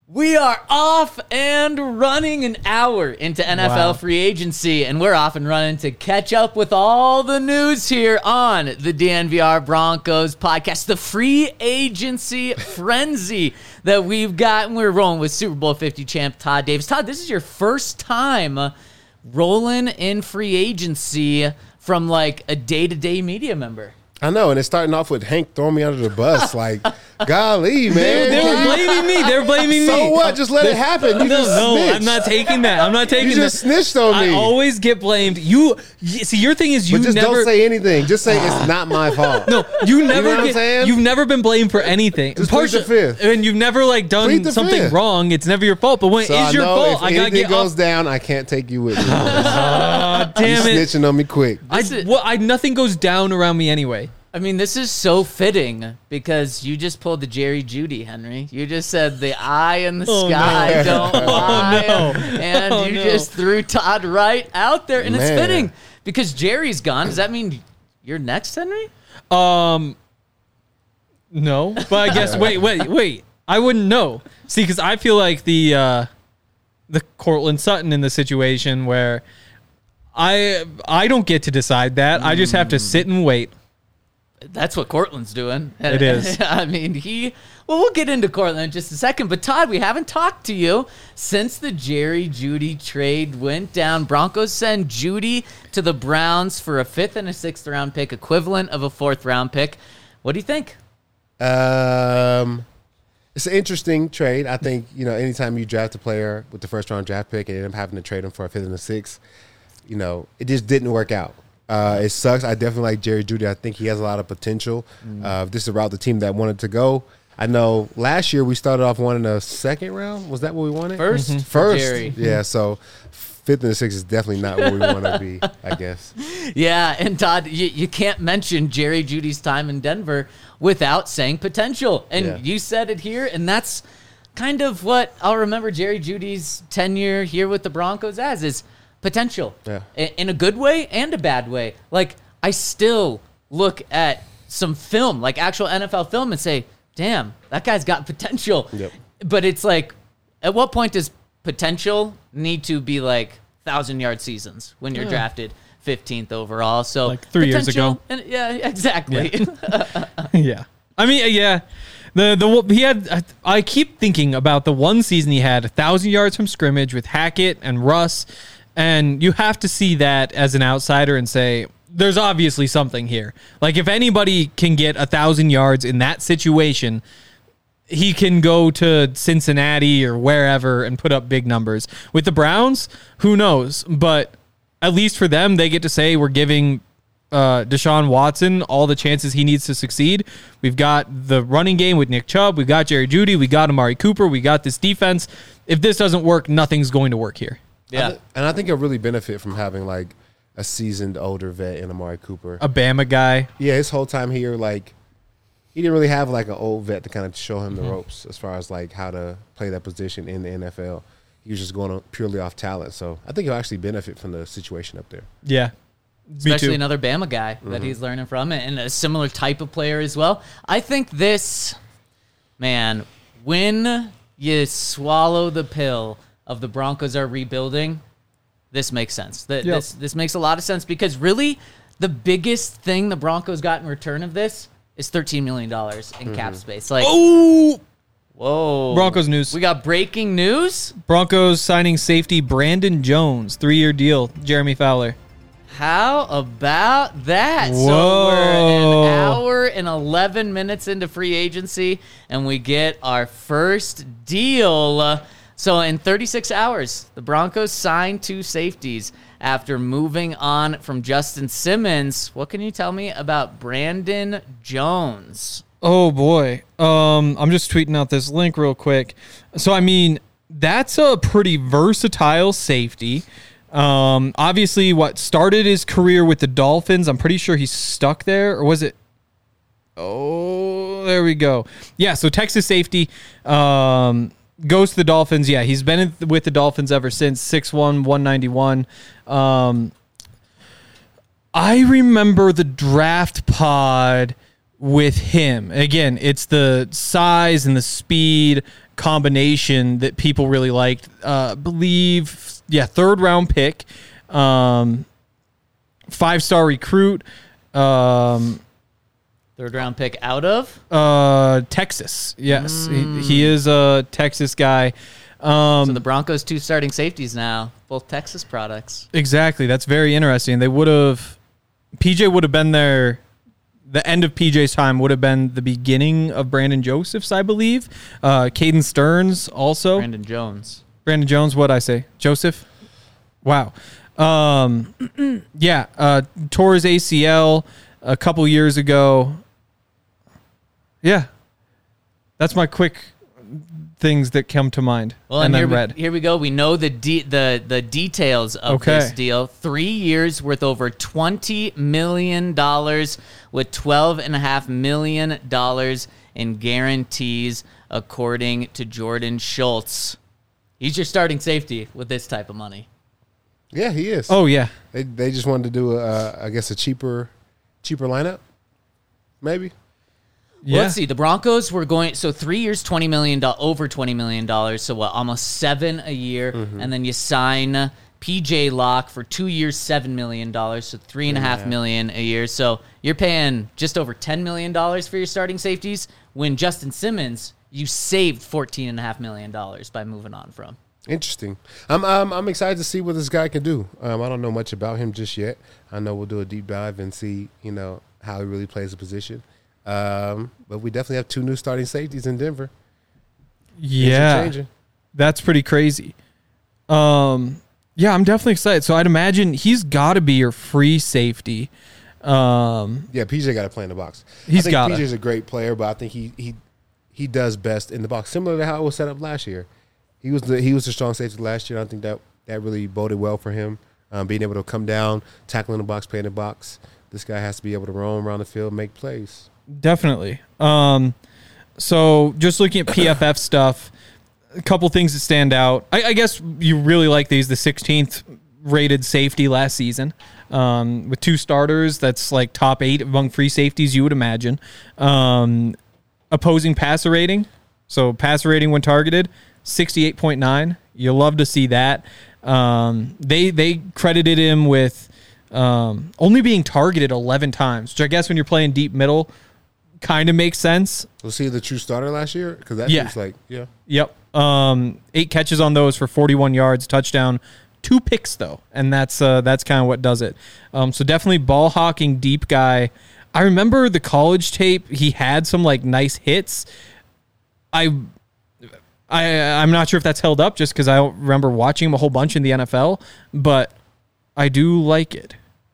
We are off and running an hour into NFL free agency, and we're off and running to catch up with all the news here on the DNVR Broncos podcast, the free agency frenzy that we've got. And we're rolling with Super Bowl 50 champ Todd Davis. Todd, this is your first time rolling in free agency from like a day-to-day media member. I know, and it's starting off with Hank throwing me under the bus. Like, golly, man. They were blaming me. They're blaming me. So what? Just let it happen. You just snitched. I'm not taking that. I'm not taking that. You just snitched on me. I always get blamed. See, your thing is but just don't say anything. Just say it's not my fault. No, you never. You know what I'm saying? You've never been blamed for anything. Just plead the fifth. And you've never done something wrong. It's never your fault. But when it is your fault, I gotta get. If anything goes down, I can't take you with me. Damn it! You're snitching on me quick. Nothing goes down around me anyway. I mean, this is so fitting because you just pulled the Jerry Judy, Henry. You just said the eye in the sky don't lie. And you just threw Todd right out there. And it's fitting because Jerry's gone. Does that mean you're next, Henry? No. But I guess, wait. I wouldn't know. See, because I feel like the Courtland Sutton in the situation where I don't get to decide that. I just have to sit and wait. That's what Courtland's doing. It is. I mean, we'll get into Courtland in just a second. But, Todd, we haven't talked to you since the Jerry Judy trade went down. Broncos send Judy to the Browns for a 5th and a 6th round pick, equivalent of a 4th round pick. What do you think? It's an interesting trade. I think, anytime you draft a player with the 1st round draft pick and end up having to trade him for a 5th and a 6th, it just didn't work out. It sucks. I definitely like Jerry Judy. I think he has a lot of potential. This is a route the team that wanted to go. I know last year we started off wanting a 2nd round. Was that what we wanted? First. Jerry. Yeah, so 5th and 6th is definitely not where we want to be, I guess. Yeah, and Todd, you can't mention Jerry Judy's time in Denver without saying potential. And you said it here, and that's kind of what I'll remember Jerry Judy's tenure here with the Broncos as is potential, in a good way and a bad way. Like, I still look at some film, like actual NFL film, and say, damn, that guy's got potential. Yep. But it's like, at what point does potential need to be like 1,000-yard seasons when you're drafted 15th overall? So like 3 years ago. And, yeah, exactly. Yeah. I mean, yeah. He had. I keep thinking about the one season he had 1,000 yards from scrimmage with Hackett and Russ. And you have to see that as an outsider and say, there's obviously something here. Like, if anybody can get 1,000 yards in that situation, he can go to Cincinnati or wherever and put up big numbers. With the Browns, who knows? But at least for them, they get to say we're giving Deshaun Watson all the chances he needs to succeed. We've got the running game with Nick Chubb. We've got Jerry Judy. We got Amari Cooper. We got this defense. If this doesn't work, nothing's going to work here. Yeah. And I think he'll really benefit from having, like, a seasoned older vet in Amari Cooper. A Bama guy. Yeah, his whole time here, like, he didn't really have, like, an old vet to kind of show him the ropes as far as, like, how to play that position in the NFL. He was just going purely off talent. So I think he'll actually benefit from the situation up there. Yeah. Especially another Bama guy that he's learning from, and a similar type of player as well. I think this, man, when you swallow the pill of the Broncos are rebuilding, this makes sense. This makes a lot of sense because really the biggest thing the Broncos got in return of this is $13 million in cap space. Like, whoa. Broncos news. We got breaking news. Broncos signing safety Brandon Jones, 3-year deal. Jeremy Fowler. How about that? Whoa. So we're an hour and 11 minutes into free agency, and we get our first deal. So in 36 hours, the Broncos signed 2 safeties after moving on from Justin Simmons. What can you tell me about Brandon Jones? Oh, boy. I'm just tweeting out this link real quick. So, I mean, that's a pretty versatile safety. Obviously, what started his career with the Dolphins, I'm pretty sure he's stuck there. Or was it? Oh, there we go. Yeah, so Texas safety. Goes to the Dolphins. Yeah, he's been with the Dolphins ever since. 6'1", 191. I remember the draft pod with him. Again, it's the size and the speed. combination that people really liked. Third round pick, 5-star recruit. Third round pick out of Texas. Yes, he is a Texas guy. So the Broncos 2 starting safeties now, both Texas products. Exactly. That's very interesting. PJ would have been there. The end of PJ's time would have been the beginning of Brandon Joseph's, I believe. Caden Stearns also. Brandon Jones, what'd I say? Joseph? Wow. Tore his ACL a couple years ago. Yeah. That's my quick things that come to mind. Well, and here we go. We know the details of this deal. 3 years worth over $20 million with $12.5 million in guarantees, according to Jordan Schultz. He's your starting safety with this type of money. Yeah, he is. Oh, yeah. They just wanted to do, a cheaper lineup, maybe. Well, let's see. The Broncos were going 3 years, $20 million, over $20 million. So what? Almost $7 a year, and then you sign PJ Locke for 2 years, $7 million. So $3.5 million a year. So you're paying just over $10 million for your starting safeties. When Justin Simmons, you saved $14.5 million by moving on from. Interesting. I'm excited to see what this guy can do. I don't know much about him just yet. I know we'll do a deep dive and see, how he really plays the position. But we definitely have 2 new starting safeties in Denver. Yeah, that's pretty crazy. I'm definitely excited. So I'd imagine he's got to be your free safety. PJ got to play in the box. PJ's a great player, but I think he does best in the box, similar to how it was set up last year. He was the strong safety last year. I think that really boded well for him, being able to come down, tackle in the box, play in the box. This guy has to be able to roam around the field, make plays. Definitely. So just looking at PFF stuff, a couple things that stand out. I guess you really like these, the 16th rated safety last season. With 2 starters, that's like top 8 among free safeties, you would imagine. Opposing passer rating. So passer rating when targeted, 68.9. You love to see that. They credited him with only being targeted 11 times, which I guess when you're playing deep middle kind of makes sense. Was he the true starter last year? Because that seems like, Yep. 8 catches on those for 41 yards, touchdown, 2 picks though, and that's kind of what does it. So definitely ball hawking deep guy. I remember the college tape. He had some like nice hits. I'm not sure if that's held up just because I don't remember watching him a whole bunch in the NFL, but I do like it.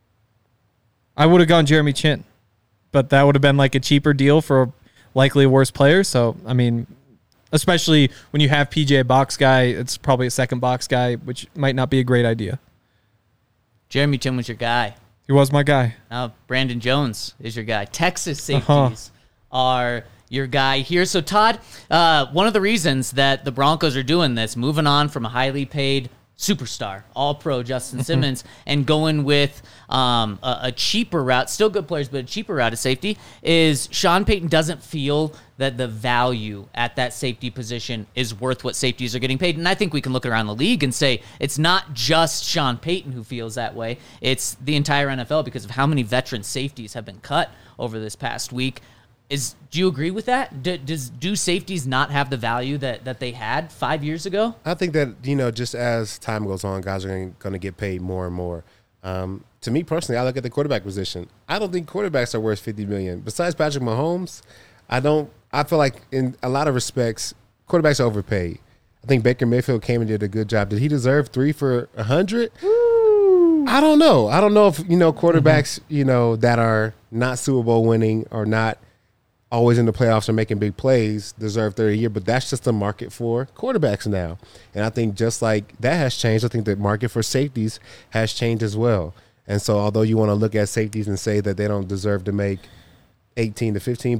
I would have gone Jeremy Chin, but that would have been like a cheaper deal for likely a worse player. So, I mean, especially when you have PJ a box guy, it's probably a second box guy, which might not be a great idea. Jeremy Chin was your guy. He was my guy. Now, Brandon Jones is your guy. Texas safeties are your guy here. So, Todd, one of the reasons that the Broncos are doing this, moving on from a highly paid superstar, all-pro Justin Simmons, and going with a cheaper route, still good players, but a cheaper route of safety, is Sean Payton doesn't feel that the value at that safety position is worth what safeties are getting paid. And I think we can look around the league and say it's not just Sean Payton who feels that way. It's the entire NFL because of how many veteran safeties have been cut over this past week. Do you agree with that? Do safeties not have the value that they had 5 years ago? I think that, just as time goes on, guys are going to get paid more and more. To me personally, I look at the quarterback position. I don't think quarterbacks are worth $50 million. Besides Patrick Mahomes, I feel like in a lot of respects, quarterbacks are overpaid. I think Baker Mayfield came and did a good job. Did he deserve 3 for $100? I don't know. I don't know if, quarterbacks, that are not Super Bowl winning or not always in the playoffs or making big plays deserve 30 a year, but that's just the market for quarterbacks now. And I think just like that has changed, I think the market for safeties has changed as well. And so although you want to look at safeties and say that they don't deserve to make 18 to 15, but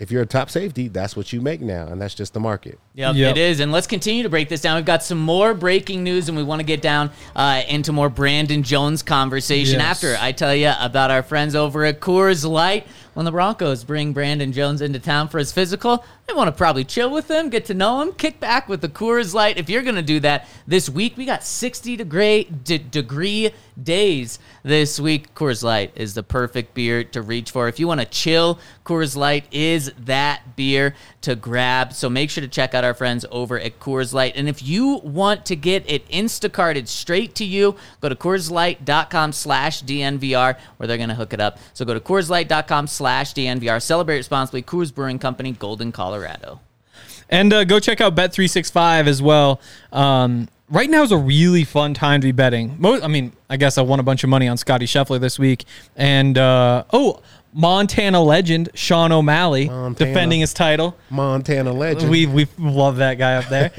if you're a top safety, that's what you make now, and that's just the market. Yep, it is. And let's continue to break this down. We've got some more breaking news, and we want to get down into more Brandon Jones conversation after I tell you about our friends over at Coors Light. When the Broncos bring Brandon Jones into town for his physical, they want to probably chill with him, get to know him, kick back with the Coors Light. If you're going to do that this week, we got 60-degree days this week. Coors Light is the perfect beer to reach for. If you want to chill, Coors Light is that beer to grab. So make sure to check out our friends over at Coors Light. And if you want to get it Instacarted straight to you, go to CoorsLight.com/DNVR where they're going to hook it up. So go to CoorsLight.com/DNVR. Celebrate responsibly. Coors Brewing Company, Golden, Colorado. And go check out Bet365 as well. Right now is a really fun time to be betting. I guess I won a bunch of money on Scotty Scheffler this week. And, Montana legend Sean O'Malley defending his title. Montana legend. We love that guy up there.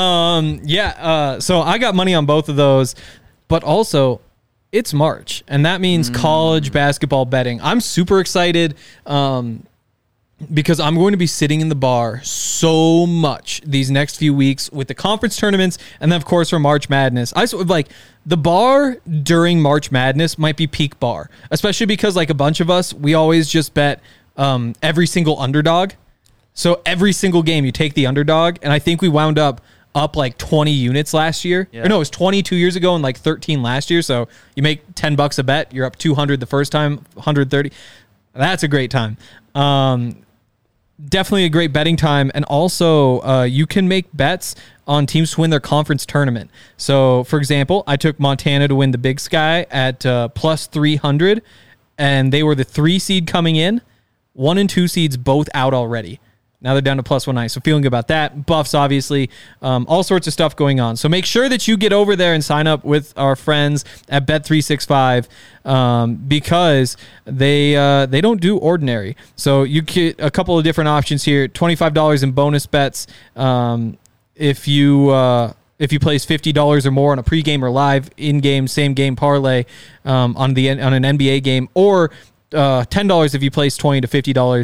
So I got money on both of those. But also, it's March, and that means college basketball betting. I'm super excited because I'm going to be sitting in the bar so much these next few weeks with the conference tournaments, and then, of course, for March Madness. The bar during March Madness might be peak bar, especially because, like, a bunch of us, we always just bet every single underdog. So every single game, you take the underdog, and I think we wound up like 20 units last year. Yeah. Or no, it was 20 2 years ago and like 13 last year. So you make $10 a bet. You're up 200 the first time, 130. That's a great time. Definitely a great betting time. And also, you can make bets on teams to win their conference tournament. So, for example, I took Montana to win the Big Sky at plus 300, and they were the 3 seed coming in. 1 and 2 seeds both out already. Now they're down to plus 190. So feeling good about that. Buffs, obviously. All sorts of stuff going on. So make sure that you get over there and sign up with our friends at Bet365 because they don't do ordinary. So you get a couple of different options here. $25 in bonus bets if you place $50 or more on a pregame or live in-game, same-game parlay on an NBA game, or $10 if you place $20 to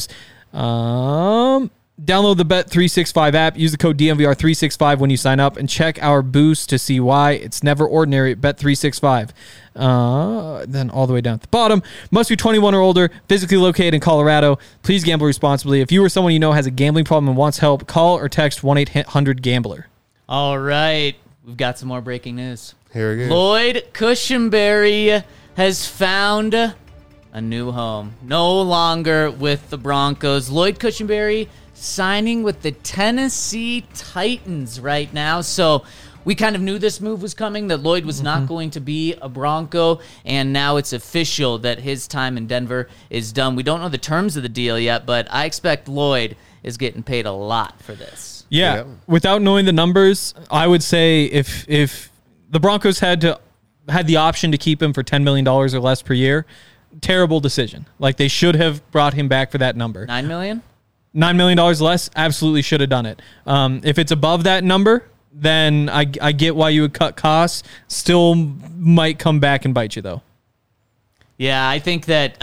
$50. Download the Bet365 app. Use the code DNVR365 when you sign up, and check our boost to see why it's never ordinary at Bet365. Then all the way down at the bottom. Must be 21 or older, physically located in Colorado. Please gamble responsibly. If you or someone you know has a gambling problem and wants help, call or text 1-800-GAMBLER. All right. We've got some more breaking news. Here we go. Lloyd Cushenberry has found a new home. No longer with the Broncos. Lloyd Cushenberry signing with the Tennessee Titans right now. So we kind of knew this move was coming, that Lloyd was not going to be a Bronco, and now it's official that his time in Denver is done. We don't know the terms of the deal yet, but I expect Lloyd is getting paid a lot for this. Yeah. Without knowing the numbers, I would say if the Broncos had the option to keep him for $10 million or less per year, terrible decision. Like, they should have brought him back for that number. $9 million? $9 million less, absolutely should have done it. If it's above that number, then I get why you would cut costs. Still might come back and bite you, though. Yeah, I think that,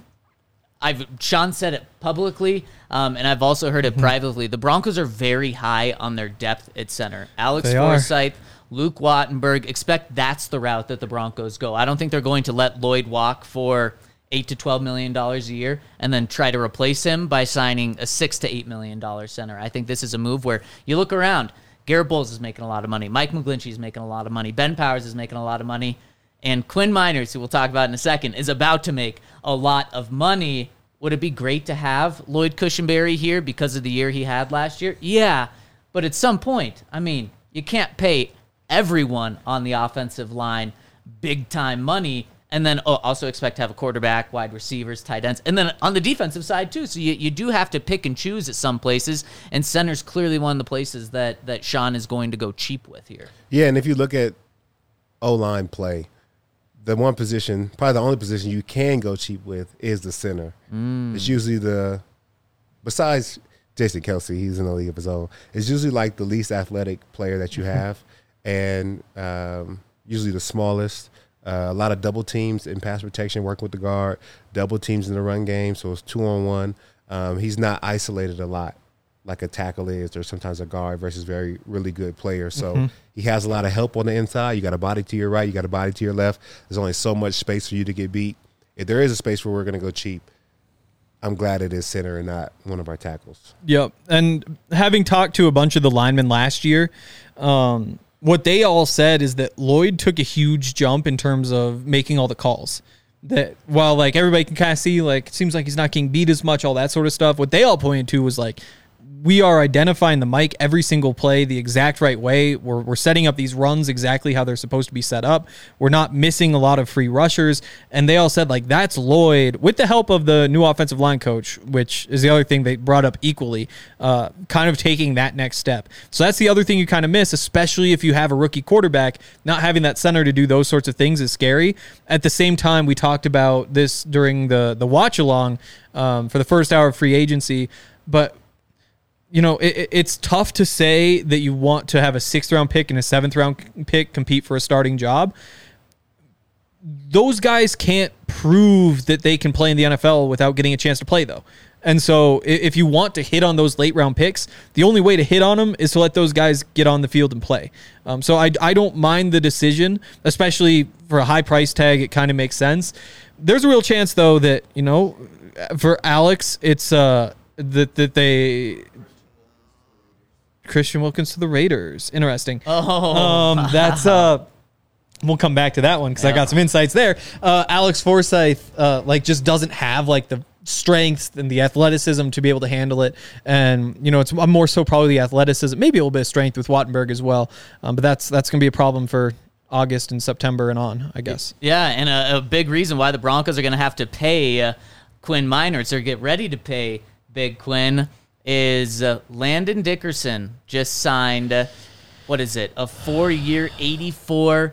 Sean said it publicly, and I've also heard it privately. The Broncos are very high on their depth at center. Alex Forsyth, Luke Wattenberg, expect that's the route that the Broncos go. I don't think they're going to let Lloyd walk for $8 to $12 million a year and then try to replace him by signing a $6 to $8 million center. I think this is a move where you look around. Garrett Bowles is making a lot of money. Mike McGlinchey is making a lot of money. Ben Powers is making a lot of money. And Quinn Miners, who we'll talk about in a second, is about to make a lot of money. Would it be great to have Lloyd Cushenberry here because of the year he had last year? Yeah, but at some point, you can't pay everyone on the offensive line big-time money and then also expect to have a quarterback, wide receivers, tight ends, and then on the defensive side too. So you do have to pick and choose at some places, and center's clearly one of the places that Sean is going to go cheap with here. Yeah, and if you look at O-line play, the one position, probably the only position you can go cheap with is the center. It's usually besides Jason Kelce, he's in a league of his own, it's usually like the least athletic player that you have, and usually the smallest. A lot of double teams in pass protection, working with the guard, double teams in the run game, so it's 2-on-1. He's not isolated a lot like a tackle is, or sometimes a guard versus really good players. So he has a lot of help on the inside. You got a body to your right, you got a body to your left. There's only so much space for you to get beat. If there is a space where we're going to go cheap, I'm glad it is center and not one of our tackles. Yep. And having talked to a bunch of the linemen last year, what they all said is that Lloyd took a huge jump in terms of making all the calls. That while like everybody can kind of see, like, it seems like he's not getting beat as much, all that sort of stuff. What they all pointed to was like, we are identifying the mic every single play the exact right way. We're setting up these runs exactly how they're supposed to be set up. We're not missing a lot of free rushers. And they all said, like, that's Lloyd, with the help of the new offensive line coach, which is the other thing they brought up equally, kind of taking that next step. So that's the other thing you kind of miss, especially if you have a rookie quarterback. Not having that center to do those sorts of things is scary. At the same time, we talked about this during the watch along for the first hour of free agency, but you know, it's tough to say that you want to have a 6th round pick and a 7th round pick compete for a starting job. Those guys can't prove that they can play in the NFL without getting a chance to play, though. And so if you want to hit on those late round picks, the only way to hit on them is to let those guys get on the field and play. So I don't mind the decision, especially for a high price tag. It kind of makes sense. There's a real chance, though, that, you know, for Alex, it's that they... Christian Wilkins to the Raiders. Interesting. That's we'll come back to that one because I got some insights there. Alex Forsyth just doesn't have like the strength and the athleticism to be able to handle it. And you know, it's more so probably the athleticism, maybe a little bit of strength with Wattenberg as well. But that's going to be a problem for August and September and on, I guess. Yeah, and a big reason why the Broncos are going to have to pay Quinn Meinerz or get ready to pay Big Quinn is Landon Dickerson just signed, a 4-year, $84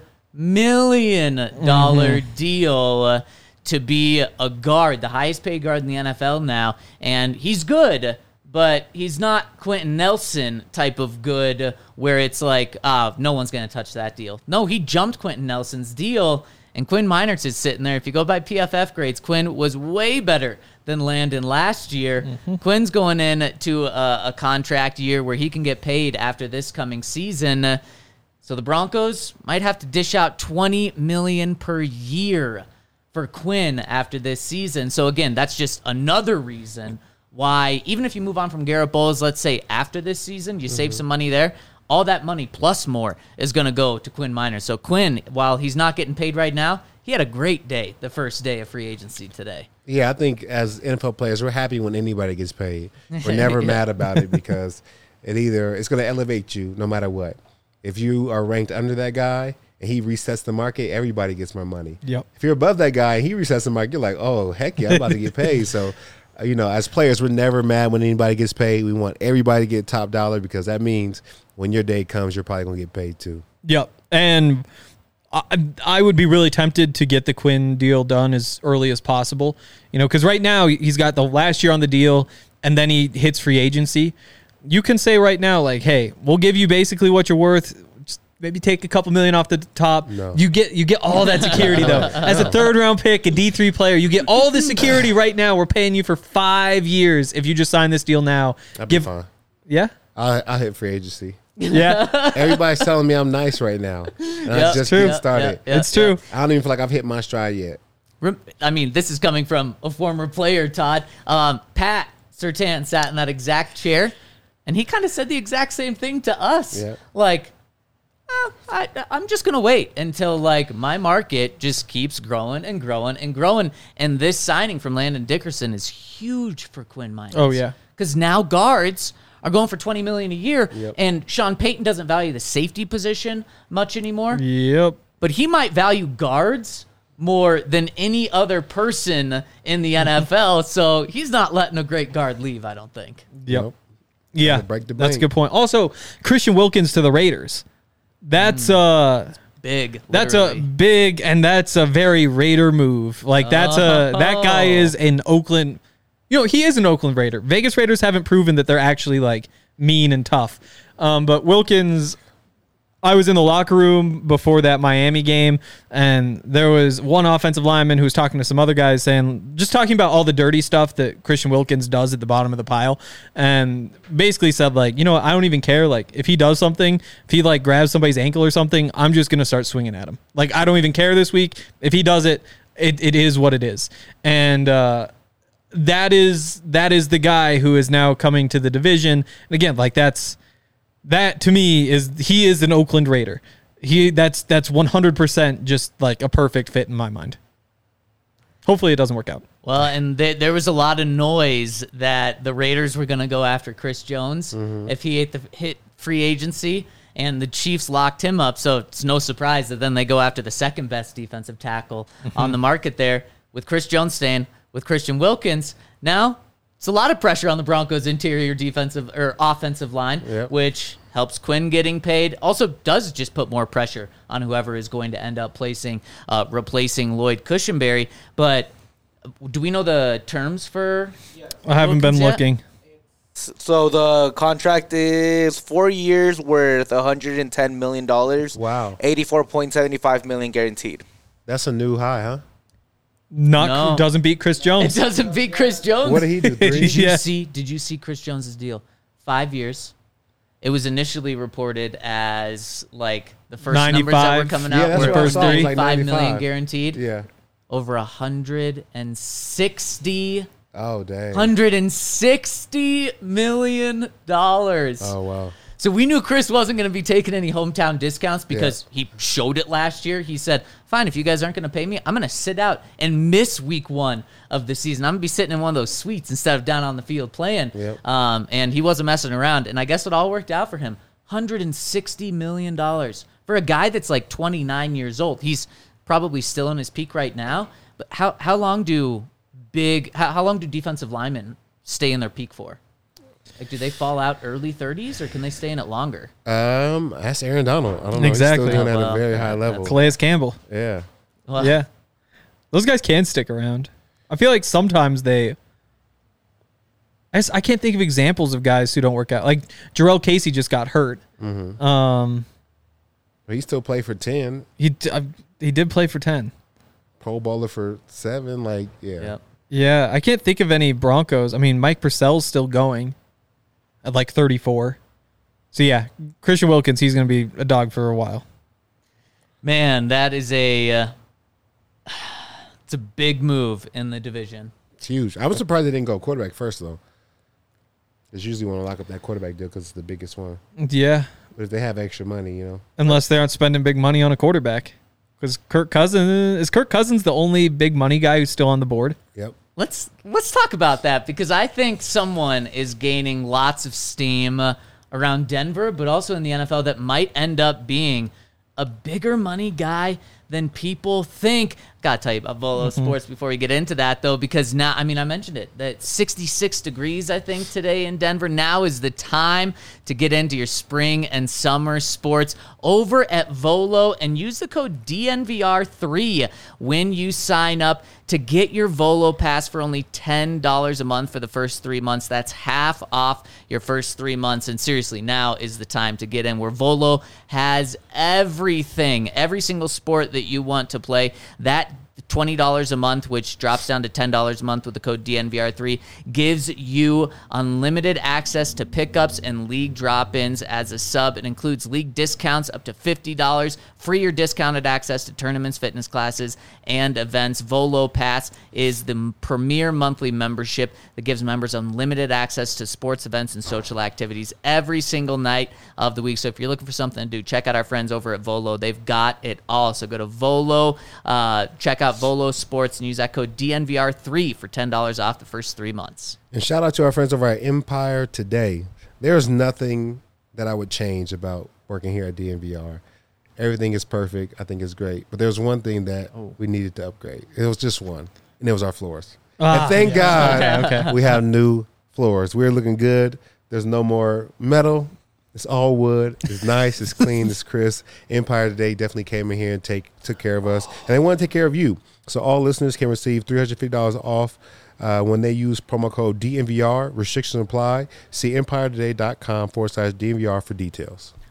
million deal to be a guard, the highest paid guard in the NFL now. And he's good, but he's not Quentin Nelson type of good where it's like, no one's going to touch that deal. No, he jumped Quentin Nelson's deal, and Quinn Meinerz is sitting there. If you go by PFF grades, Quinn was way better than Landon last year. Quinn's going in to a contract year where he can get paid after this coming season. So the Broncos might have to dish out $20 million per year for Quinn after this season. So again, that's just another reason why, even if you move on from Garrett Bowles, let's say after this season, you save some money there, all that money plus more is going to go to Quinn Meinerz. So Quinn, while he's not getting paid right now, he had a great day, the first day of free agency today. Yeah, I think as NFL players, we're happy when anybody gets paid. We're never mad about it because it's going to elevate you no matter what. If you are ranked under that guy and he resets the market, everybody gets more money. Yep. If you're above that guy and he resets the market, you're like, oh, heck yeah, I'm about to get paid. So, you know, as players, we're never mad when anybody gets paid. We want everybody to get top dollar because that means when your day comes, you're probably going to get paid too. Yep. And I would be really tempted to get the Quinn deal done as early as possible, you know, because right now he's got the last year on the deal and then he hits free agency. You can say right now, like, hey, we'll give you basically what you're worth. Just maybe take a couple million off the top. No. You get all that security though. As a 3rd round pick, a D3 player, you get all the security right now. We're paying you for 5 years if you just sign this deal now. That'd be fine. Yeah. I'll hit free agency. Yeah. Everybody's telling me I'm nice right now. And I just true. getting started. It's true. I don't even feel like I've hit my stride yet. I mean, this is coming from a former player, Todd. Pat Surtain sat in that exact chair, and he kind of said the exact same thing to us. Yeah. Like, I'm just going to wait until, like, my market just keeps growing and growing and growing. And this signing from Landon Dickerson is huge for Quinn Meinerz. Oh, yeah. Because now guards are going for $20 million a year, Yep. and Sean Payton doesn't value the safety position much anymore. Yep. But he might value guards more than any other person in the NFL, so he's not letting a great guard leave, I don't think. Yep. Nope. Yeah, Break the that's a bank. good point. Also, Christian Wilkins to the Raiders. That's Big. that's literally. a big, and that's a very Raider move. Like that guy is in Oakland. You know, he is an Oakland Raider. Vegas Raiders haven't proven that they're actually like mean and tough. But Wilkins, I was in the locker room before that Miami game, and there was one offensive lineman who was talking to some other guys just talking about all the dirty stuff that Christian Wilkins does at the bottom of the pile, and basically said, like, you know what, I don't even care. Like, if he does something, if he, like, grabs somebody's ankle or something, I'm just going to start swinging at him. Like, I don't even care this week. If he does it, it is what it is. And that is the guy who is now coming to the division. And again, like, that to me he is an Oakland Raider. That's 100% just like a perfect fit in my mind. Hopefully it doesn't work out. Well, and there was a lot of noise that the Raiders were going to go after Chris Jones if he hit free agency, and the Chiefs locked him up. So it's no surprise that then they go after the second best defensive tackle on the market there, with Chris Jones staying with Christian Wilkins. Now it's a lot of pressure on the Broncos' interior defensive or offensive line, which helps Quinn getting paid. Also does just put more pressure on whoever is going to end up replacing Lloyd Cushenberry. But do we know the terms for? I haven't been looking. So the contract is 4 years worth $110 million. Wow. $84.75 million guaranteed. That's a new high, huh? Doesn't beat Chris Jones. It doesn't beat Chris Jones. What did he do? 3? Did you see Chris Jones' deal? 5 years. It was initially reported as like the first 95. numbers that were coming out that's were what I saw. It was like 5 million 95. guaranteed. Yeah. Over 160. Oh, dang. $160 million. Oh, wow. So we knew Chris wasn't going to be taking any hometown discounts because he showed it last year. He said, fine, if you guys aren't going to pay me, I'm going to sit out and miss week 1 of the season. I'm going to be sitting in one of those suites instead of down on the field playing. Yep. And he wasn't messing around. And I guess it all worked out for him. $160 million for a guy that's like 29 years old. He's probably still in his peak right now. But how long do defensive linemen stay in their peak for? Like, do they fall out early 30s, or can they stay in it longer? That's Aaron Donald. I don't know. Exactly. He's still doing at a very high level. Calais Campbell. Yeah. Well, Yeah. Those guys can stick around. I feel like sometimes I can't think of examples of guys who don't work out. Like Jarrell Casey just got hurt. But he still played for 10. He did play for 10. Pro Bowler for 7. Like, yeah. Yep. Yeah, I can't think of any Broncos. I mean, Mike Purcell's still going at like 34. So, yeah, Christian Wilkins, he's going to be a dog for a while. Man, that is it's a big move in the division. It's huge. I was surprised they didn't go quarterback first, though. It's usually want to lock up that quarterback deal because it's the biggest one. Yeah. But if they have extra money, Unless they aren't spending big money on a quarterback. Because Kirk Cousins the only big money guy who's still on the board? Yep. Let's talk about that, because I think someone is gaining lots of steam around Denver, but also in the NFL, that might end up being a bigger money guy than people think. Gotta tell you about Volo Sports before we get into that, though, because now, I mean, I mentioned it, that 66 degrees, I think, today in Denver. Now is the time to get into your spring and summer sports over at Volo, and use the code DNVR3 when you sign up to get your Volo pass for only $10 a month for the first 3 months. That's half off your first 3 months. And seriously, now is the time to get in, where Volo has everything, every single sport that you want to play. That $20 a month, which drops down to $10 a month with the code DNVR3, gives you unlimited access to pickups and league drop-ins as a sub. It includes league discounts up to $50, free or discounted access to tournaments, fitness classes, and events. Volo Pass is the premier monthly membership that gives members unlimited access to sports events and social activities every single night of the week. So if you're looking for something to do, check out our friends over at Volo. They've got it all. So go to Volo, check out Volo Sports, and use that code DNVR3 for $10 off the first 3 months. And shout out to our friends over at Empire Today. There's nothing that I would change about working here at DNVR. Everything is perfect. I think it's great. But there's one thing that we needed to upgrade. It was just one, and it was our floors. And thank God we have new floors. We're looking good. There's no more metal. It's all wood. It's nice. It's clean. It's crisp. Empire Today definitely came in here and took care of us. And they want to take care of you. So all listeners can receive $350 off when they use promo code DNVR. Restrictions apply. See EmpireToday.com/DNVR for details.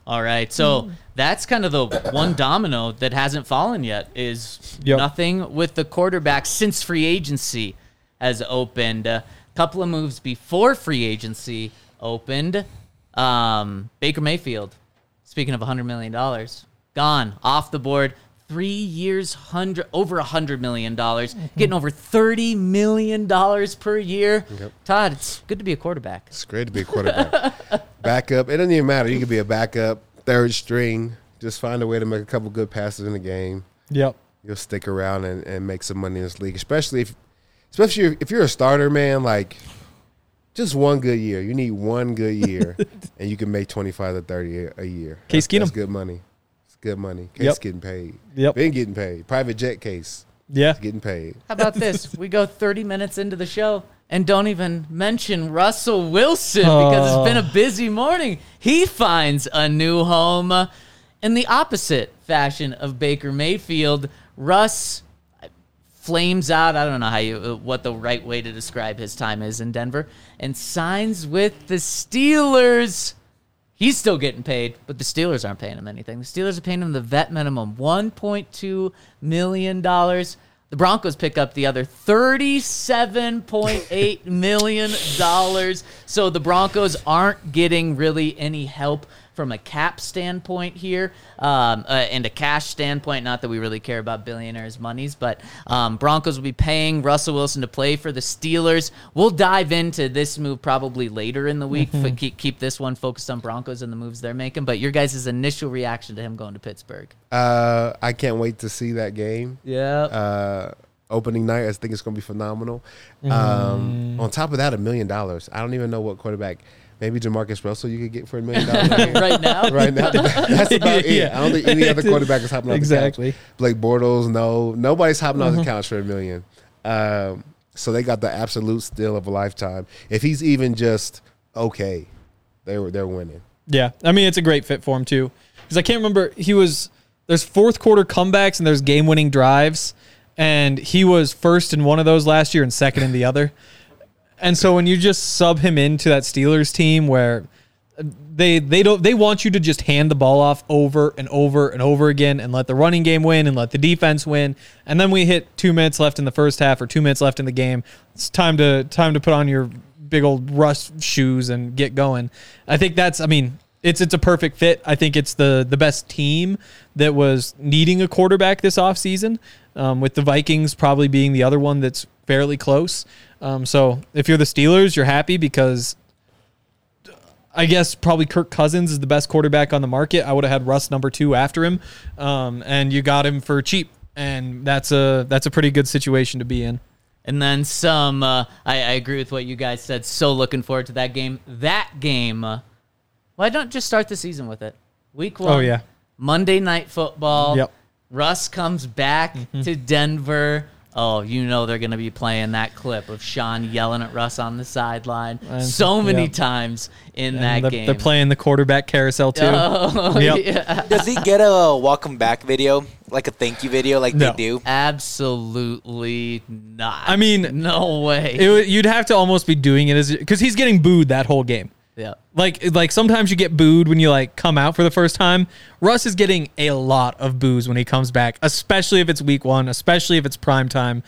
All right, so that's kind of the one domino that hasn't fallen yet is nothing with the quarterback since free agency has opened. A couple of moves before free agency opened. Baker Mayfield, speaking of $100 million, gone off the board. 3 years, over $100 million, getting over $30 million per year. Yep. Todd, it's good to be a quarterback. It's great to be a quarterback. Backup, it doesn't even matter. You could be a backup, third string. Just find a way to make a couple good passes in the game. Yep. You'll stick around and make some money in this league, especially if you're a starter, man. Like, just one good year. You need one good year, and you can make 25 to 30 a year. Case Keenum. That's good money. Good money. Case getting paid. Yep. Been getting paid. Private jet case. Yeah. Getting paid. How about this? We go 30 minutes into the show and don't even mention Russell Wilson because it's been a busy morning. He finds a new home in the opposite fashion of Baker Mayfield. Russ flames out. I don't know what the right way to describe his time is in Denver, and signs with the Steelers. He's still getting paid, but the Steelers aren't paying him anything. The Steelers are paying him the vet minimum, $1.2 million. The Broncos pick up the other $37.8 million. So the Broncos aren't getting really any help from a cap standpoint here and a cash standpoint. Not that we really care about billionaires' monies, but Broncos will be paying Russell Wilson to play for the Steelers. We'll dive into this move probably later in the week. Keep this one focused on Broncos and the moves they're making. But your guys' initial reaction to him going to Pittsburgh? I can't wait to see that game. Yeah. Opening night, I think it's going to be phenomenal. On top of that, $1 million. I don't even know what quarterback. Maybe Jamarcus Russell you could get for $1 million right now. Right now, that's about it. I don't think any other quarterback is hopping off the couch. Blake Bortles, nobody's hopping off the couch for $1 million. So they got the absolute steal of a lifetime. If he's even just okay, they're winning. Yeah, I mean it's a great fit for him too, because I can't remember there's fourth quarter comebacks and there's game winning drives, and he was first in one of those last year and second in the other. And so when you just sub him into that Steelers team where they want you to just hand the ball off over and over and over again and let the running game win and let the defense win, and then we hit 2 minutes left in the first half or 2 minutes left in the game, it's time to put on your big old Russ shoes and get going. I think it's a perfect fit. I think it's the best team that was needing a quarterback this offseason, with the Vikings probably being the other one that's fairly close. So if you're the Steelers, you're happy because I guess probably Kirk Cousins is the best quarterback on the market. I would have had Russ number 2 after him, and you got him for cheap, and that's a pretty good situation to be in. And then some. I agree with what you guys said. So looking forward to that game. Why don't just start the season with it? Week 1. Oh yeah. Monday Night Football. Yep. Russ comes back to Denver. Oh, they're going to be playing that clip of Sean yelling at Russ on the sideline so many times in that game. They're playing the quarterback carousel too. Oh, yeah. Does he get a welcome back video, like a thank you video like they do? Absolutely not. I mean, no way. You'd have to almost be doing it because he's getting booed that whole game. Yeah. Like sometimes you get booed when you come out for the first time. Russ is getting a lot of boos when he comes back, especially if it's week 1, especially if it's prime time.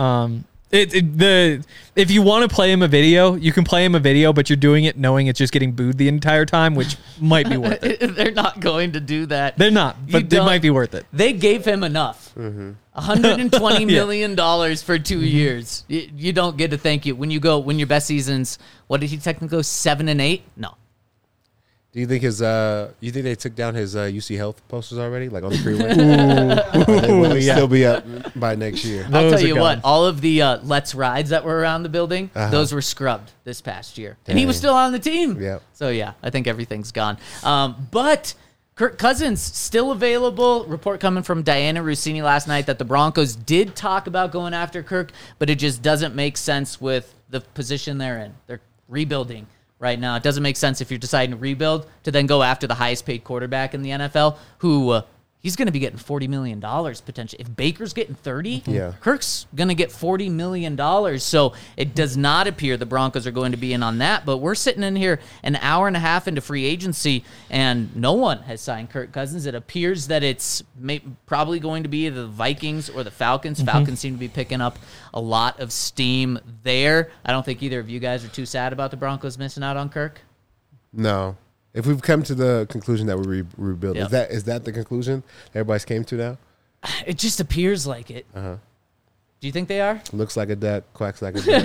If you want to play him a video, you can play him a video, but you're doing it knowing it's just getting booed the entire time, which might be worth it. They're not going to do that. They're not, but it might be worth it. They gave him enough. $120 million for 2 years. You don't get a thank you. When your best season's, what did he technically go, 7 and 8? No. Do you think you think they took down his UC Health posters already, like on the freeway? Will they still be up by next year? I'll tell you what, all of the Let's Rides that were around the building, those were scrubbed this past year. Dang. And he was still on the team. Yep. So, yeah, I think everything's gone. But Kirk Cousins still available. Report coming from Diana Rossini last night that the Broncos did talk about going after Kirk, but it just doesn't make sense with the position they're in. They're rebuilding right now. It doesn't make sense if you're deciding to rebuild to then go after the highest paid quarterback in the NFL, who he's going to be getting $40 million potentially. If Baker's getting 30, Yeah. Kirk's going to get $40 million. So it does not appear the Broncos are going to be in on that. But we're sitting in here an hour and a half into free agency, and no one has signed Kirk Cousins. It appears that it's probably going to be the Vikings or the Falcons. Falcons seem to be picking up a lot of steam there. I don't think either of you guys are too sad about the Broncos missing out on Kirk. No. If we've come to the conclusion that we rebuild, Yep. is that the conclusion everybody's came to now? It just appears like it. Do you think they are? Looks like a duck, quacks like a duck.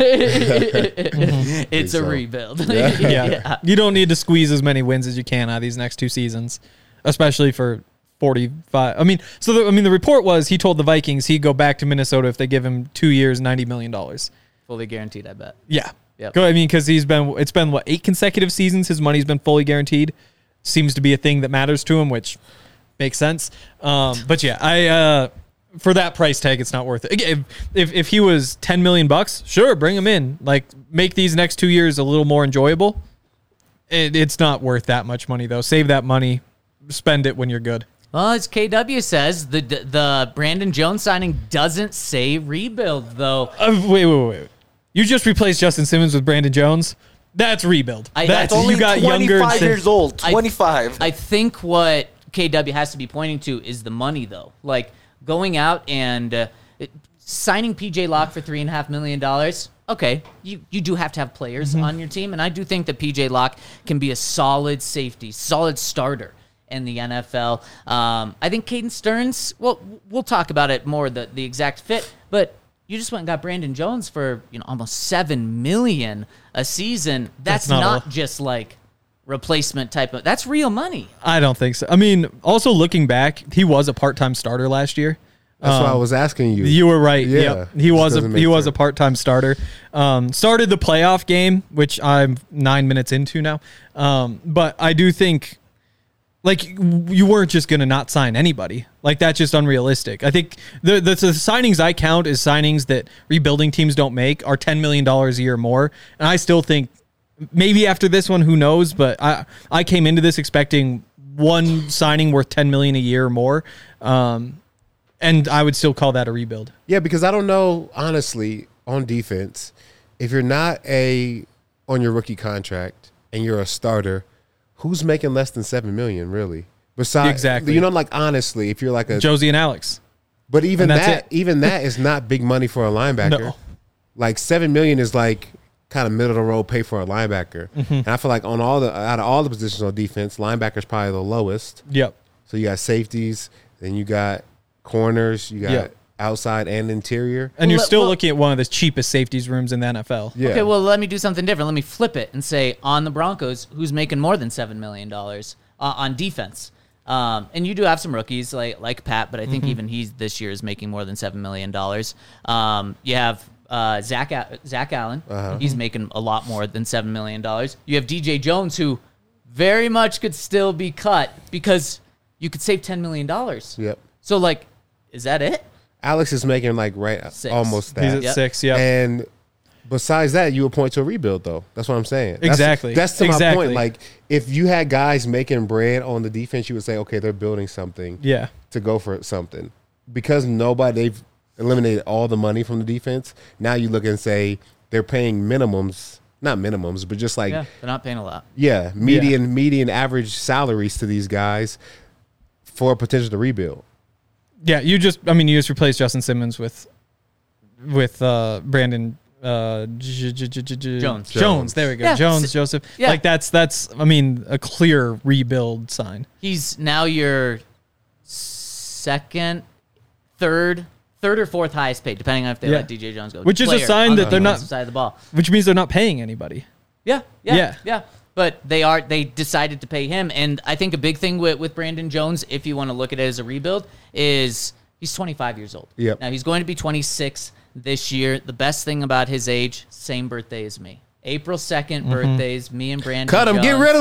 It's a so. rebuild. Yeah. You don't need to squeeze as many wins as you can out of these next 2 seasons, especially for 45. I mean, the report was he told the Vikings he'd go back to Minnesota if they give him 2 years, $90 million. Fully guaranteed, I bet. Yeah. Yep. I mean, because it's been 8 consecutive seasons. His money's been fully guaranteed. Seems to be a thing that matters to him, which makes sense. But yeah, for that price tag, it's not worth it. If he was $10 million, sure, bring him in. Like, make these next 2 years a little more enjoyable. It's not worth that much money though. Save that money, spend it when you're good. Well, as KW says, the Brandon Jones signing doesn't say rebuild, though. Wait. You just replaced Justin Simmons with Brandon Jones. That's rebuild. That's Only you got 25 years old. 25. I think what KW has to be pointing to is the money, though. Like, going out and signing PJ Locke for $3.5 million. Okay, you do have to have players on your team, and I do think that PJ Locke can be a solid safety, solid starter in the NFL. I think Caden Stearns, well, we'll talk about it more, the exact fit, but you just went and got Brandon Jones for almost $7 million a season. That's not just like replacement type of. That's real money. I don't think so. I mean, also looking back, he was a part-time starter last year. That's why I was asking you. You were right. Yeah, Yep. He was a part-time starter. Started the playoff game, which I'm 9 minutes into now. But I do think, like, you weren't just going to not sign anybody. Like, that's just unrealistic. I think the signings I count as signings that rebuilding teams don't make are $10 million a year more. And I still think maybe after this one, who knows? But I came into this expecting one signing worth $10 million a year or more. And I would still call that a rebuild. Yeah, because I don't know, honestly, on defense, if you're not on your rookie contract and you're a starter, who's making less than $7 million, really? Besides, exactly. Like, honestly, if you're like a Josie and Alex. But even that is not big money for a linebacker. No. Like $7 million is like kind of middle of the road pay for a linebacker. And I feel like out of all the positions on defense, linebacker's probably the lowest. Yep. So you got safeties, then you got corners, you got outside and interior. And you're still looking at one of the cheapest safeties rooms in the NFL. Yeah. Okay, well, let me do something different. Let me flip it and say on the Broncos, who's making more than $7 million on defense? And you do have some rookies like Pat, but I think even he's this year is making more than $7 million. You have Zach Allen. He's making a lot more than $7 million. You have DJ Jones, who very much could still be cut because you could save $10 million. Yep. So, like, is that it? Alex is making like almost that. He's at 6, yeah. And besides that, you would point to a rebuild, though. That's what I'm saying. Exactly. That's to my point. Like, if you had guys making bread on the defense, you would say, okay, they're building something to go for something. Because they've eliminated all the money from the defense, now you look and say they're paying minimums. Not minimums, but just like... Yeah, they're not paying a lot. Yeah, median average salaries to these guys for a potential to rebuild. Yeah, you just replaced Justin Simmons with Brandon Jones. Jones. There we go. Yeah. Joseph. Yeah. Like that's a clear rebuild sign. He's now your third or fourth highest paid, depending on if they let DJ Jones go. Which is a sign that they're not side of the ball. Which means they're not paying anybody. Yeah. But they decided to pay him, and I think a big thing with Brandon Jones, if you want to look at it as a rebuild, is he's 25 years old. Yep. Now he's going to be 26 this year. The best thing about his age, same birthday as me. April 2nd birthdays, me and Brandon Cut him, Jones. get rid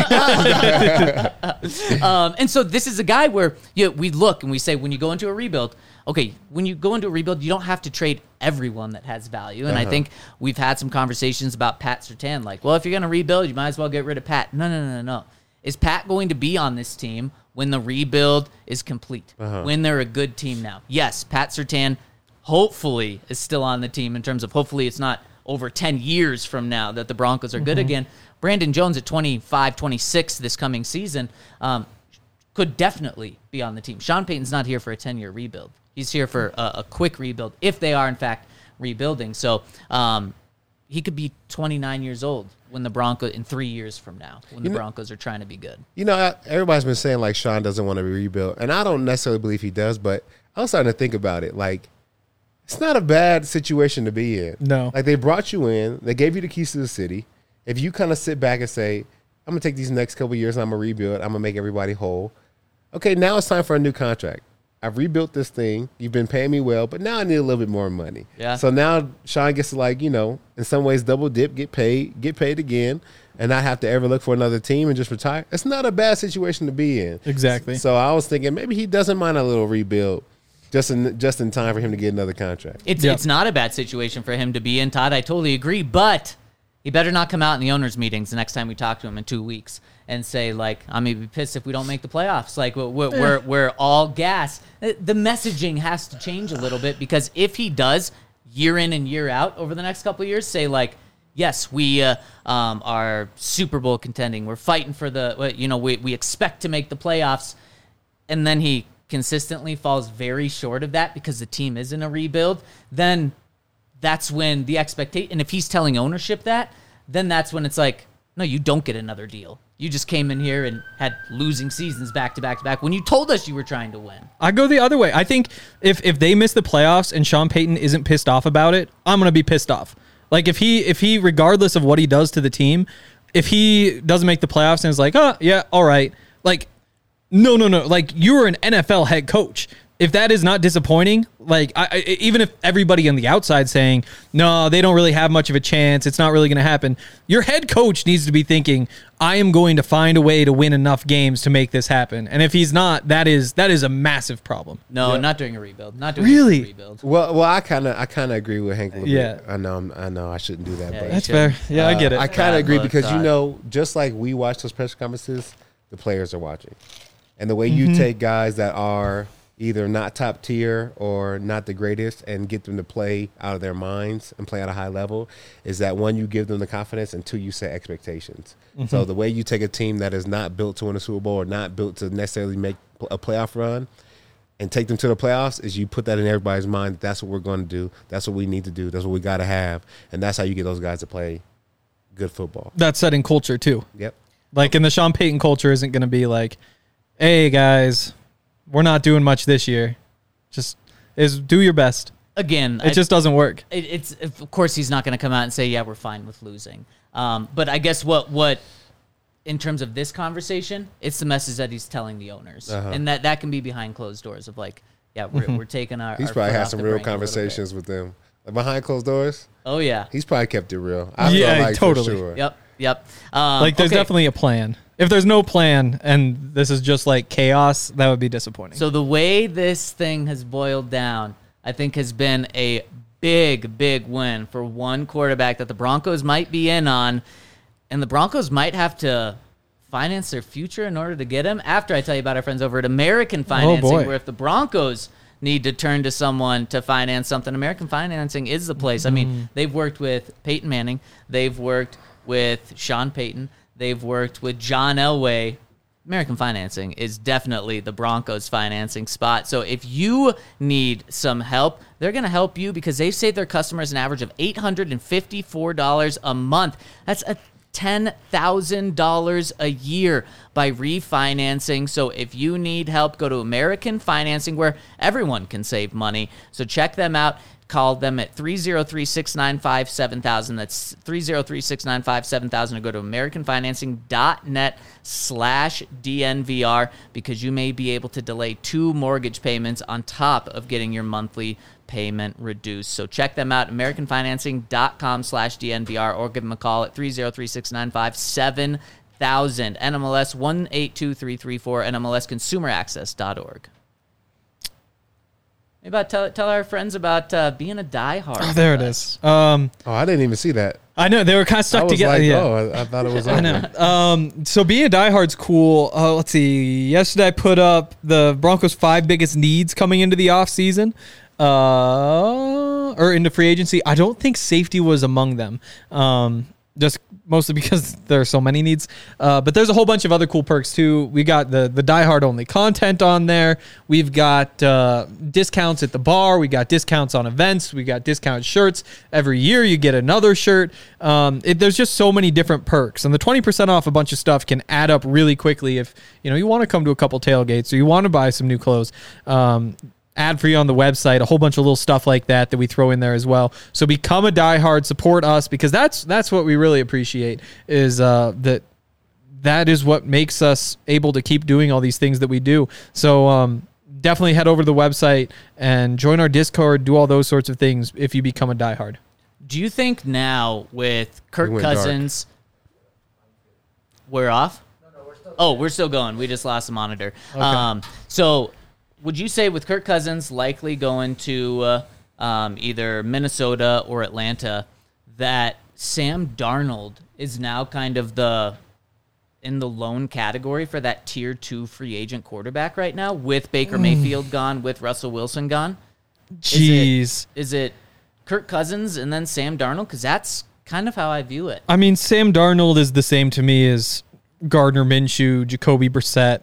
of him quick. And so this is a guy where we look and we say, when you go into a rebuild, okay, when you go into a rebuild, you don't have to trade everyone that has value. And I think we've had some conversations about Pat Surtain. Like, well, if you're going to rebuild, you might as well get rid of Pat. No. Is Pat going to be on this team when the rebuild is complete, when they're a good team now. Yes, Pat Surtain hopefully is still on the team in terms of hopefully it's not over 10 years from now that the Broncos are good again. Brandon Jones at 25, 26 this coming season could definitely be on the team. Sean Payton's not here for a 10-year rebuild. He's here for a quick rebuild if they are, in fact, rebuilding. So he could be 29 years old when the Broncos, in 3 years from now, when the Broncos are trying to be good. You know, everybody's been saying, like, Sean doesn't want to rebuild. And I don't necessarily believe he does, but I was starting to think about it. Like, it's not a bad situation to be in. No. Like, they brought you in. They gave you the keys to the city. If you kind of sit back and say, I'm going to take these next couple of years and I'm going to rebuild, I'm going to make everybody whole. Okay, now it's time for a new contract. I've rebuilt this thing. You've been paying me well, but now I need a little bit more money. Yeah. So now Sean gets to, like, you know, in some ways double dip, get paid again, and not have to ever look for another team and just retire. It's not a bad situation to be in. Exactly. So I was thinking maybe he doesn't mind a little rebuild just in time for him to get another contract. It's not a bad situation for him to be in, Todd. I totally agree, but he better not come out in the owners' meetings the next time we talk to him in 2 weeks and say, like, I'm going to be pissed if we don't make the playoffs. Like, we're all gas. The messaging has to change a little bit, because if he does, year in and year out over the next couple of years, say, like, yes, we are Super Bowl contending. We're fighting for we expect to make the playoffs. And then he consistently falls very short of that because the team is in a rebuild. Then that's when the expectation, and if he's telling ownership that, then that's when it's like, no, you don't get another deal. You just came in here and had losing seasons back to back to back when you told us you were trying to win. I go the other way. I think if they miss the playoffs and Sean Payton isn't pissed off about it, I'm going to be pissed off. Like, if he, regardless of what he does to the team, if he doesn't make the playoffs and is like, oh, yeah, all right. Like, no. Like, you're an NFL head coach. If that is not disappointing, like, even if everybody on the outside saying, no, they don't really have much of a chance, it's not really going to happen, your head coach needs to be thinking, I am going to find a way to win enough games to make this happen. And if he's not, that is a massive problem. No, not during a rebuild. Not during Really? a rebuild. Well, I kind of agree with Hank a little Yeah. bit. I know I shouldn't do that, Yeah, but That's fair. Yeah, I get it. I kind of agree because, Todd. you know, just like we watch those press conferences, the players are watching. And the way you take guys that are either not top tier or not the greatest and get them to play out of their minds and play at a high level is that, one, you give them the confidence, and two, you set expectations. So the way you take a team that is not built to win a Super Bowl or not built to necessarily make a playoff run and take them to the playoffs is you put that in everybody's mind. That's what we're going to do. That's what we need to do. That's what we got to have. And that's how you get those guys to play good football. That's setting culture, too. Yep. Like, in the Sean Payton culture isn't going to be like, hey, guys, we're not doing much this year. Just do your best. Again, It just doesn't work. It's of course he's not going to come out and say, yeah, we're fine with losing. But I guess what in terms of this conversation, it's the message that he's telling the owners, and that can be behind closed doors of, like, yeah, we're taking our. He's our probably foot had off some the real brake a little bit. conversations with them. Like, behind closed doors, Oh yeah. he's probably kept it real. I Yeah, feel like totally. for sure. Yep. Like, there's okay. definitely a plan. If there's no plan and this is just like chaos, that would be disappointing. So the way this thing has boiled down, I think, has been a big win for one quarterback that the Broncos might be in on, and the Broncos might have to finance their future in order to get him. After I tell you about our friends over at American Financing, boy. where if the Broncos need to turn to someone to finance something, American Financing is the place. I mean, they've worked with Peyton Manning. They've worked with Sean Payton. They've worked with John Elway. American Financing is definitely the Broncos financing spot. So if you need some help, they're going to help you because they've saved their customers an average of $854 a month. That's $10,000 a year by refinancing. So if you need help, go to American Financing, where everyone can save money. So check them out. Call them at 303-695-7000. That's 303-695-7000, or go to americanfinancing.net/DNVR, because you may be able to delay 2 mortgage payments on top of getting your monthly payment reduced. So check them out, americanfinancing.com/DNVR, or give them a call at 303-695-7000. NMLS 182334, NMLSconsumeraccess.org. Maybe tell our friends about being a diehard. Oh, there it with is. us. Oh, I didn't even see that. I know they were kind of I stuck was together. like, Yeah. oh, I thought it was over. I know. So being a diehard's cool. Let's see. Yesterday I put up the Broncos' 5 biggest needs coming into the offseason, or into free agency. I don't think safety was among them. Just mostly because there are so many needs. But there's a whole bunch of other cool perks too. We got the diehard only content on there. We've got discounts at the bar. We got discounts on events. We got discount shirts. Every year you get another shirt. There's just so many different perks. And the 20% off a bunch of stuff can add up really quickly if you want to come to a couple tailgates or you want to buy some new clothes. Ad free on the website, a whole bunch of little stuff like that we throw in there as well. So become a diehard, support us, because that's what we really appreciate is that is what makes us able to keep doing all these things that we do. So definitely head over to the website and join our Discord, do all those sorts of things if you become a diehard. Do you think now with Kirk Cousins, we're off? No, we're still going. We just lost the monitor. Okay. So would you say with Kirk Cousins likely going to either Minnesota or Atlanta, that Sam Darnold is now kind of in the lone category for that tier 2 free agent quarterback right now, with Baker Mayfield gone, with Russell Wilson gone? Jeez. Is it Kirk Cousins and then Sam Darnold? Because that's kind of how I view it. I mean, Sam Darnold is the same to me as Gardner Minshew, Jacoby Brissett,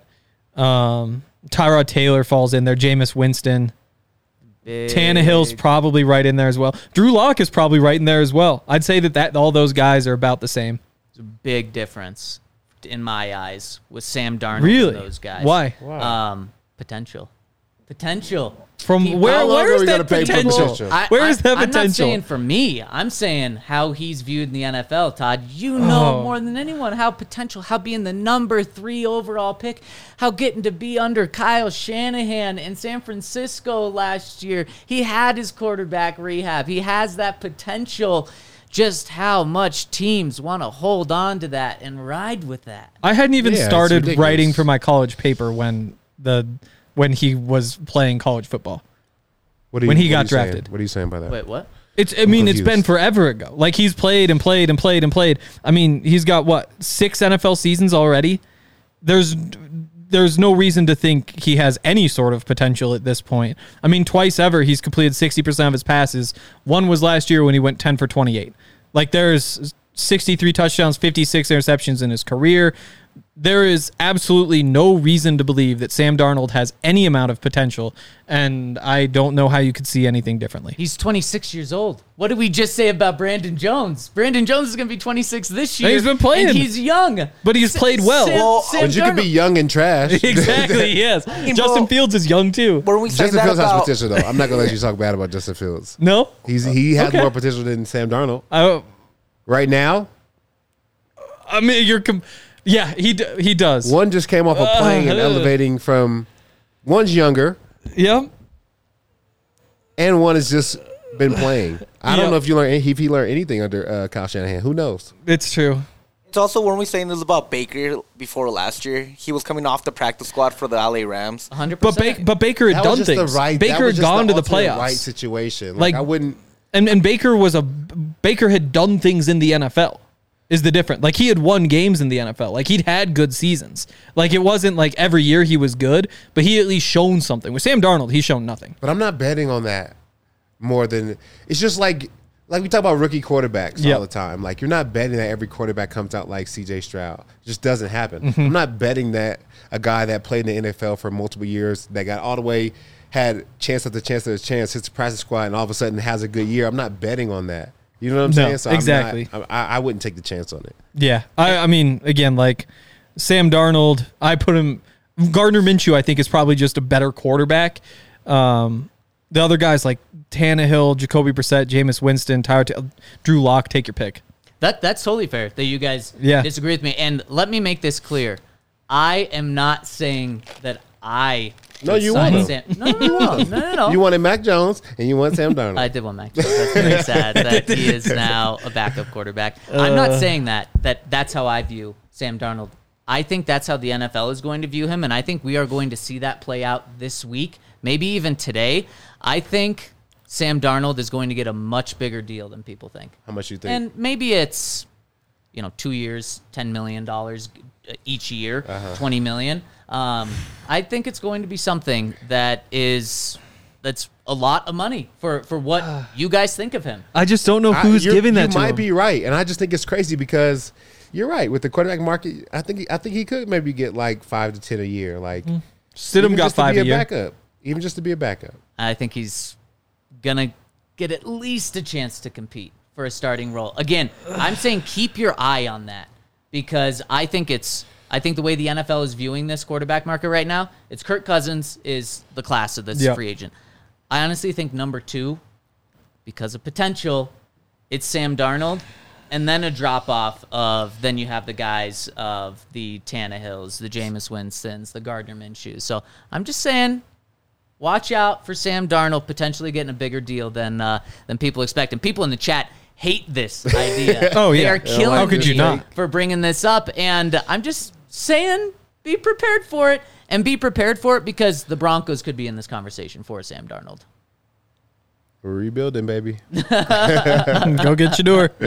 Tyrod Taylor falls in there, Jameis Winston. Tannehill's probably right in there as well. Drew Lock is probably right in there as well. I'd say that all those guys are about the same. It's a big difference in my eyes with Sam Darnold and those guys. Why? Potential. From where's that potential? Where is that potential? I'm not saying for me. I'm saying how he's viewed in the NFL, Todd. You know more than anyone how being the number 3 overall pick, how getting to be under Kyle Shanahan in San Francisco last year. He had his quarterback rehab. He has that potential. Just how much teams want to hold on to that and ride with that. I hadn't even started writing for my college paper when he was playing college football. When he got drafted. What are you saying by that? Wait, what? It's been forever ago. Like, he's played and played and played and played. I mean, he's got 6 NFL seasons already. There's no reason to think he has any sort of potential at this point. I mean, twice ever he's completed 60% of his passes. One was last year when he went 10 for 28. Like, there's 63 touchdowns, 56 interceptions in his career. There is absolutely no reason to believe that Sam Darnold has any amount of potential, and I don't know how you could see anything differently. He's 26 years old. What did we just say about Brandon Jones? Brandon Jones is going to be 26 this year. And he's been playing. And he's young. But he's played well. But you could be young and trash. Exactly, yes. Justin Fields is young, too. Justin Fields has potential, though. I'm not going to let you talk bad about Justin Fields. No? He has more potential than Sam Darnold. Right now? I mean, yeah, he does. One just came off of playing and elevating from. One's younger. Yep. And one has just been playing. I don't know if he learned anything under Kyle Shanahan. Who knows? It's true. It's also, when we saying this about Baker before last year, he was coming off the practice squad for the LA Rams. 100%. But Baker had done things. Baker had gone to the playoffs. Right situation. Like, I wouldn't. And Baker had done things in the NFL. Is the difference. Like, he had won games in the NFL. Like, he'd had good seasons. Like, it wasn't like every year he was good, but he at least shown something. With Sam Darnold, he's shown nothing. But I'm not betting on that more than it's just like we talk about rookie quarterbacks all the time. Like, you're not betting that every quarterback comes out like CJ Stroud. It just doesn't happen. Mm-hmm. I'm not betting that a guy that played in the NFL for multiple years, that got all the way, had chance after chance after chance, hits the practice squad, and all of a sudden has a good year. I'm not betting on that. You know what I'm saying? So exactly. I wouldn't take the chance on it. Yeah. I mean, again, like Sam Darnold, I put him. Gardner Minshew, I think, is probably just a better quarterback. The other guys like Tannehill, Jacoby Brissett, Jameis Winston, Drew Lock, take your pick. That's totally fair that you guys disagree with me. And let me make this clear. I am not saying that I. No, you want him. No. You wanted Mac Jones and you want Sam Darnold. I did want Mac Jones. That's very sad that he is now a backup quarterback. I'm not saying that's how I view Sam Darnold. I think that's how the NFL is going to view him, and I think we are going to see that play out this week, maybe even today. I think Sam Darnold is going to get a much bigger deal than people think. How much you think? And maybe it's, 2 years, $10 million each year, $20 million. I think it's going to be something that's a lot of money for what you guys think of him. I just don't know who's giving that to him. You might be right, and I just think it's crazy because you're right with the quarterback market. I think he could maybe get like 5 to 10 a year. Like Stidham got 5 a year. Backup, even just to be a backup. I think he's gonna get at least a chance to compete for a starting role. Again, I'm saying keep your eye on that because I think the way the NFL is viewing this quarterback market right now, it's Kirk Cousins is the class of this free agent. I honestly think number 2, because of potential, it's Sam Darnold, and then a drop-off then you have the guys of the Tannehills, the Jameis Winstons, the Gardner Minshew's. So I'm just saying, watch out for Sam Darnold potentially getting a bigger deal than people expect. And people in the chat hate this idea. Oh, yeah. They are killing How could me you not? for bringing this up. And I'm just saying, be prepared for it. And be prepared for it because the Broncos could be in this conversation for Sam Darnold. We're rebuilding, baby. Go get your door.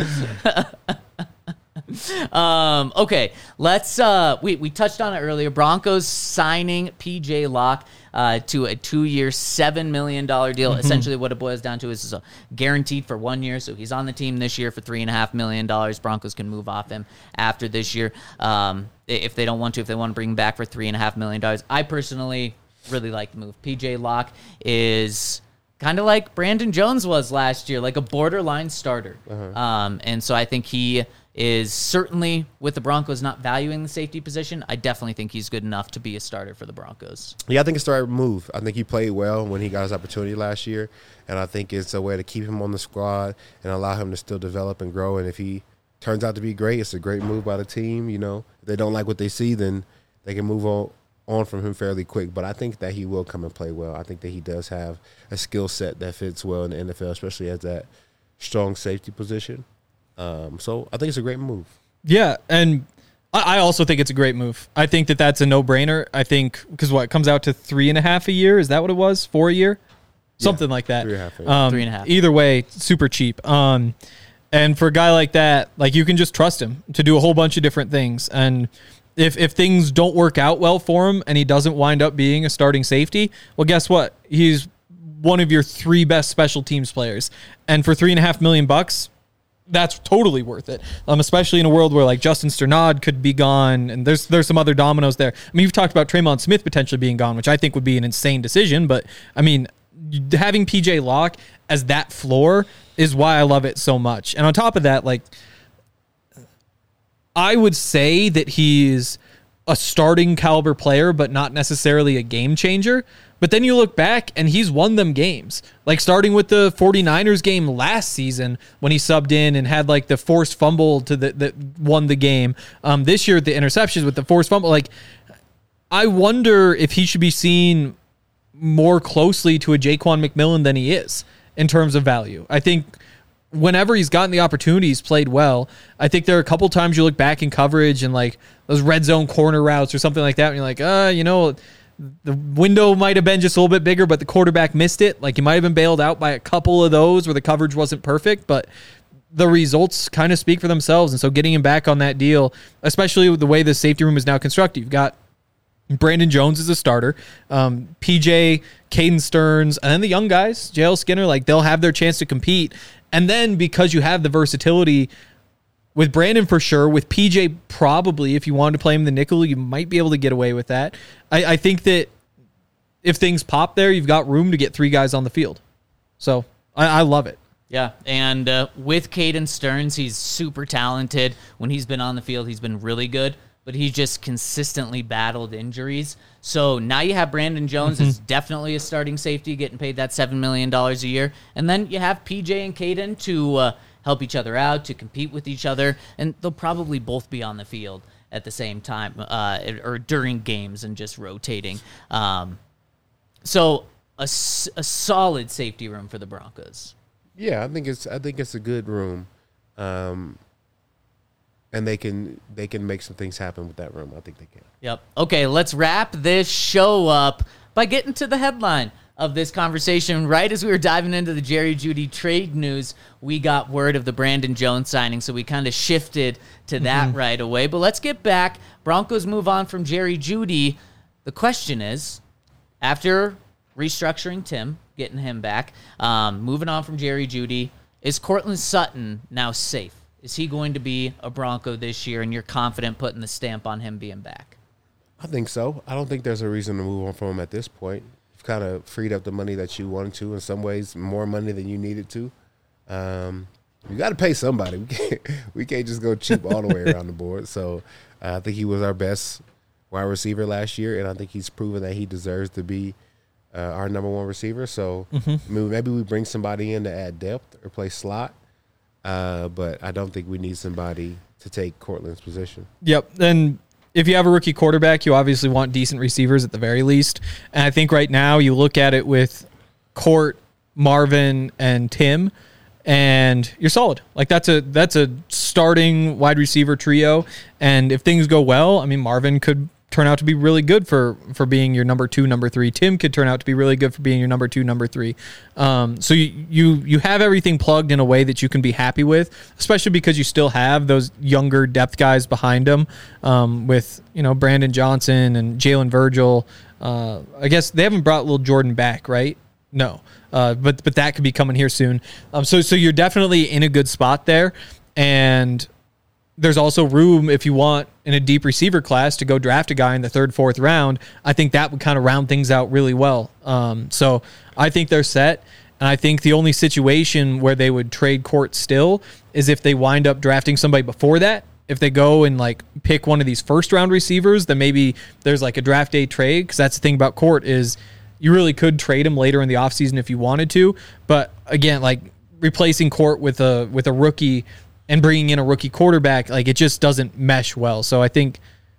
Okay, let's we touched on it earlier. Broncos signing PJ Locke to a 2-year, $7 million deal. Essentially what it boils down to is guaranteed for 1 year, so he's on the team this year for $3.5 million. Broncos can move off him after this year if they don't want to, if they want to bring him back for $3.5 million. I personally really like the move. PJ Locke is kind of like Brandon Jones was last year, like a borderline starter. And so I think he is certainly, with the Broncos not valuing the safety position, I definitely think he's good enough to be a starter for the Broncos. Yeah, I think it's the right move. I think he played well when he got his opportunity last year, and I think it's a way to keep him on the squad and allow him to still develop and grow. And if he turns out to be great, it's a great move by the team. If they don't like what they see, then they can move on from him fairly quick. But I think that he will come and play well. I think that he does have a skill set that fits well in the NFL, especially as that strong safety position. So I think it's a great move. Yeah, and I also think it's a great move. I think that's a no-brainer. I think because it comes out to 3.5 a year. Is that what it was? 4 a year, something like that. 3.5. 3.5. Either way, super cheap. And for a guy like that, like you can just trust him to do a whole bunch of different things. And if things don't work out well for him and he doesn't wind up being a starting safety, well, guess what? He's one of your 3 best special teams players, and for $3.5 million. That's totally worth it, especially in a world where like Justin Sternad could be gone, and there's some other dominoes there. I mean, you've talked about Traymon Smith potentially being gone, which I think would be an insane decision, but I mean, having PJ Locke as that floor is why I love it so much. And on top of that, like, I would say that he's a starting caliber player, but not necessarily a game changer. But then you look back and he's won them games, like starting with the 49ers game last season when he subbed in and had like the forced fumble that won the game. This year, the interceptions with the forced fumble. Like, I wonder if he should be seen more closely to a Jaquan McMillan than he is in terms of value. I think whenever he's gotten the opportunity, he's played well. I think there are a couple times you look back in coverage and like those red zone corner routes or something like that, and you're like, the window might have been just a little bit bigger, but the quarterback missed it. Like, you might have been bailed out by a couple of those where the coverage wasn't perfect, but the results kind of speak for themselves. And so getting him back on that deal, especially with the way the safety room is now constructed, you've got Brandon Jones as a starter, PJ, Caden Stearns, and then the young guys, JL Skinner, like they'll have their chance to compete. And then because you have the versatility with Brandon for sure, with PJ probably, if you wanted to play him in the nickel, you might be able to get away with that. I think that if things pop there, you've got room to get 3 guys on the field. So I love it. Yeah, and with Caden Stearns, he's super talented. When he's been on the field, he's been really good, but he's just consistently battled injuries. So now you have Brandon Jones is definitely a starting safety, getting paid that $7 million a year. And then you have PJ and Caden to help each other out, to compete with each other, and they'll probably both be on the field at the same time or during games and just rotating. So a solid safety room for the Broncos. Yeah, I think it's a good room, and they can make some things happen with that room. I think they can. Yep. Okay, let's wrap this show up by getting to the headline. of this conversation. Right as we were diving into the Jerry Jeudy trade news, we got word of the Brandon Jones signing, so we kind of shifted to that right away. But let's get back. Broncos move on from Jerry Jeudy. The question is, after restructuring Tim, getting him back, moving on from Jerry Jeudy, is Courtland Sutton now safe? Is he going to be a Bronco this year, and you're confident putting the stamp on him being back? I think so. I don't think there's a reason to move on from him at this point. You've kind of freed up the money that you wanted to, in some ways, more money than you needed to. You got to pay somebody. We can't just go cheap all the way around the board. So I think he was our best wide receiver last year, and I think he's proven that he deserves to be our number one receiver. So maybe we bring somebody in to add depth or play slot, but I don't think we need somebody to take Courtland's position. Yep, and if you have a rookie quarterback, you obviously want decent receivers at the very least. And I think right now you look at it with Court, Marvin, and Tim, and you're solid. Like that's a starting wide receiver trio. And if things go well, I mean, Marvin could turn out to be really good for being your number 2, number 3. Tim could turn out to be really good for being your number 2, number 3. So you have everything plugged in a way that you can be happy with, especially because you still have those younger depth guys behind them, with Brandon Johnson and Jalen Virgil. I guess they haven't brought little Jordan back, right? No, but that could be coming here soon. So you're definitely in a good spot there, and there's also room if you want in a deep receiver class to go draft a guy in the 3rd, 4th round. I think that would kind of round things out really well. So I think they're set. And I think the only situation where they would trade Court still is if they wind up drafting somebody before that. If they go and pick one of these 1st round receivers, then maybe there's a draft day trade. Cause that's the thing about Court is you really could trade him later in the offseason if you wanted to. But again, replacing Court with a rookie and bringing in a rookie quarterback, it just doesn't mesh well. So I think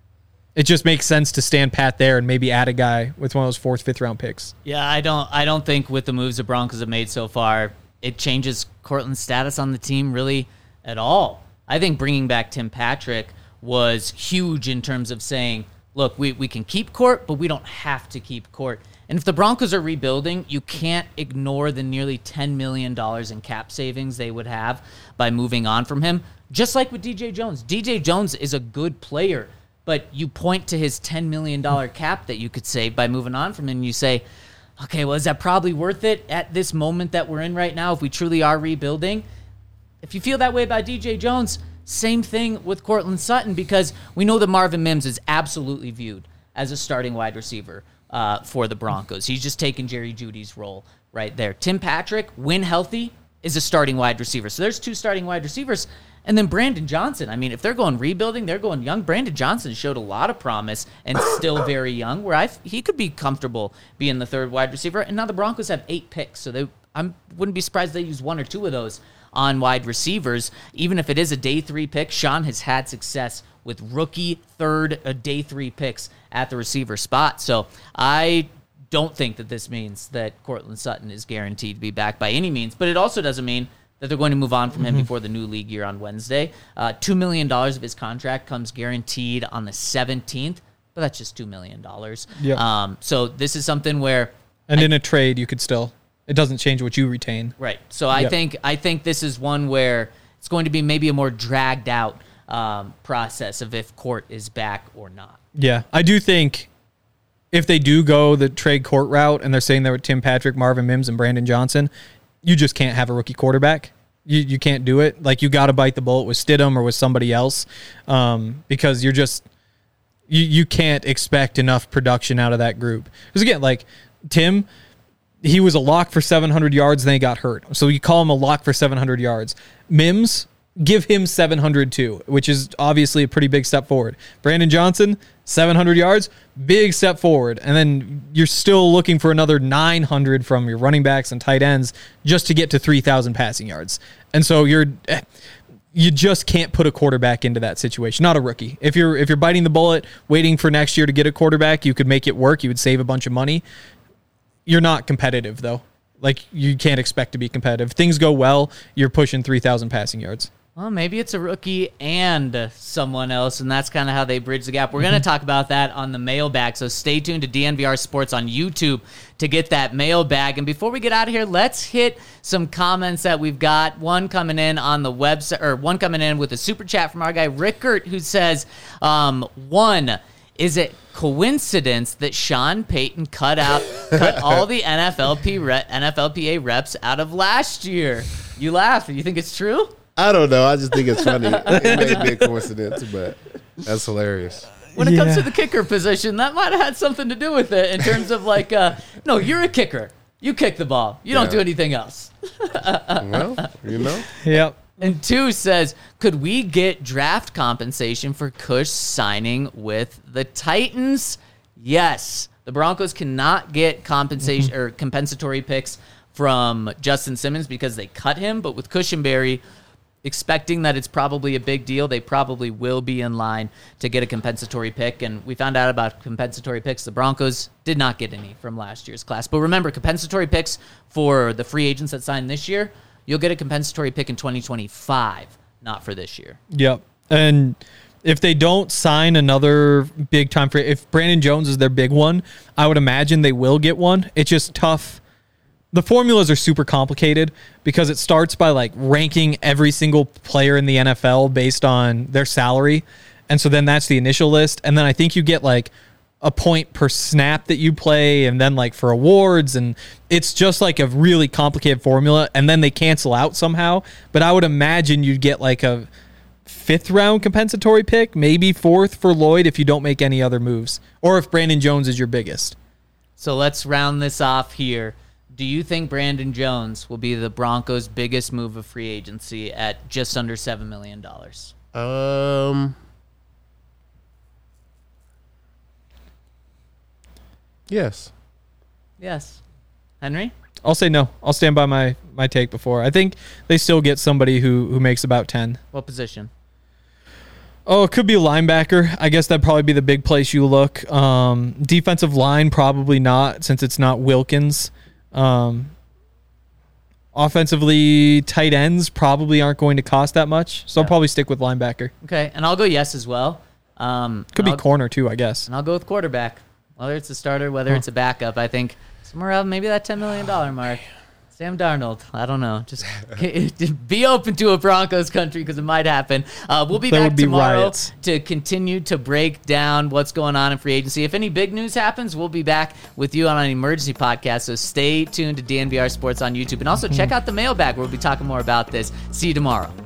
it just makes sense to stand pat there and maybe add a guy with one of those 4th, 5th round picks. Yeah, I don't think with the moves the Broncos have made so far, it changes Courtland's status on the team really at all. I think bringing back Tim Patrick was huge in terms of saying, look, we can keep Court, but we don't have to keep Court. And if the Broncos are rebuilding, you can't ignore the nearly $10 million in cap savings they would have by moving on from him. Just like with DJ Jones. DJ Jones is a good player, but you point to his $10 million cap that you could save by moving on from him, and you say, okay, well, is that probably worth it at this moment that we're in right now if we truly are rebuilding? If you feel that way about DJ Jones, same thing with Courtland Sutton, because we know that Marvin Mims is absolutely viewed as a starting wide receiver for the Broncos. He's just taken Jerry Jeudy's role right there. Tim Patrick, when healthy, is a starting wide receiver. So there's 2 starting wide receivers. And then Brandon Johnson. I mean, if they're going rebuilding, they're going young. Brandon Johnson showed a lot of promise and still very young, where he could be comfortable being the 3rd wide receiver. And now the Broncos have 8 picks, so I wouldn't be surprised if they use 1 or 2 of those on wide receivers. Even if it is a day 3 pick, Sean has had success with rookie 3rd, day 3 picks at the receiver spot. So I don't think that this means that Courtland Sutton is guaranteed to be back by any means, but it also doesn't mean that they're going to move on from him before the new league year on Wednesday. $2 million of his contract comes guaranteed on the 17th, but that's just $2 million. Yep. So this is something where... And in a trade, you could still... It doesn't change what you retain. Right. So I think this is one where it's going to be maybe a more dragged out process of if Court is back or not. Yeah, I do think if they do go the trade Court route and they're saying they're with Tim Patrick, Marvin Mims, and Brandon Johnson, you just can't have a rookie quarterback. You can't do it. You got to bite the bullet with Stidham or with somebody else, because you're just you can't expect enough production out of that group. Because again, Tim, he was a lock for 700 yards, then he got hurt. So you call him a lock for 700 yards. Mims, give him 700 too, which is obviously a pretty big step forward. Brandon Johnson, 700 yards, big step forward. And then you're still looking for another 900 from your running backs and tight ends just to get to 3,000 passing yards. And so you just can't put a quarterback into that situation, not a rookie. If you're biting the bullet, waiting for next year to get a quarterback, you could make it work. You would save a bunch of money. You're not competitive, though. You can't expect to be competitive. If things go well, you're pushing 3,000 passing yards. Well, maybe it's a rookie and someone else, and that's kind of how they bridge the gap. We're going to talk about that on the mailbag, so stay tuned to DNVR Sports on YouTube to get that mailbag. And before we get out of here, let's hit some comments that we've got. One coming in on the website, or one coming in with a super chat from our guy Rickert, who says, one, is it coincidence that Sean Payton cut all the NFLPA reps out of last year? You laugh. You think it's true? I don't know. I just think it's funny. It may be a coincidence, but that's hilarious. When it comes to the kicker position, that might have had something to do with it in terms of like, no, you're a kicker. You kick the ball. You don't do anything else. Well, Yep. And 2 says, could we get draft compensation for Kush signing with the Titans? Yes. The Broncos cannot get compensation or compensatory picks from Justin Simmons because they cut him, but with Cushenberry, expecting that it's probably a big deal, they probably will be in line to get a compensatory pick. And we found out about compensatory picks. The Broncos did not get any from last year's class. But remember, compensatory picks for the free agents that signed this year, you'll get a compensatory pick in 2025, not for this year. Yep. And if they don't sign another big time free, if Brandon Jones is their big one, I would imagine they will get one. It's just tough. The formulas are super complicated because it starts by like ranking every single player in the NFL based on their salary. And so then that's the initial list. And then I think you get like a point per snap that you play and then like for awards. And it's just like a really complicated formula. And then they cancel out somehow. But I would imagine you'd get like a 5th round compensatory pick, maybe 4th for Lloyd if you don't make any other moves or if Brandon Jones is your biggest. So let's round this off here. Do you think Brandon Jones will be the Broncos' biggest move of free agency at just under $7 million? Yes. Yes. Henry? I'll say no. I'll stand by my take before. I think they still get somebody who makes about 10. What position? Oh, it could be a linebacker. I guess that'd probably be the big place you look. Defensive line, probably not, since it's not Wilkins. Offensively, tight ends probably aren't going to cost that much, so I'll probably stick with linebacker. Okay, and I'll go yes as well. Could be corner too, I guess. And I'll go with quarterback. Whether it's a starter, whether it's a backup, I think somewhere around maybe that $10 million mark. Sam Darnold, I don't know. Just be open to a Broncos country because it might happen. We'll be back tomorrow to continue to break down what's going on in free agency. If any big news happens, we'll be back with you on an emergency podcast. So stay tuned to DNVR Sports on YouTube. And also check out the mailbag where we'll be talking more about this. See you tomorrow.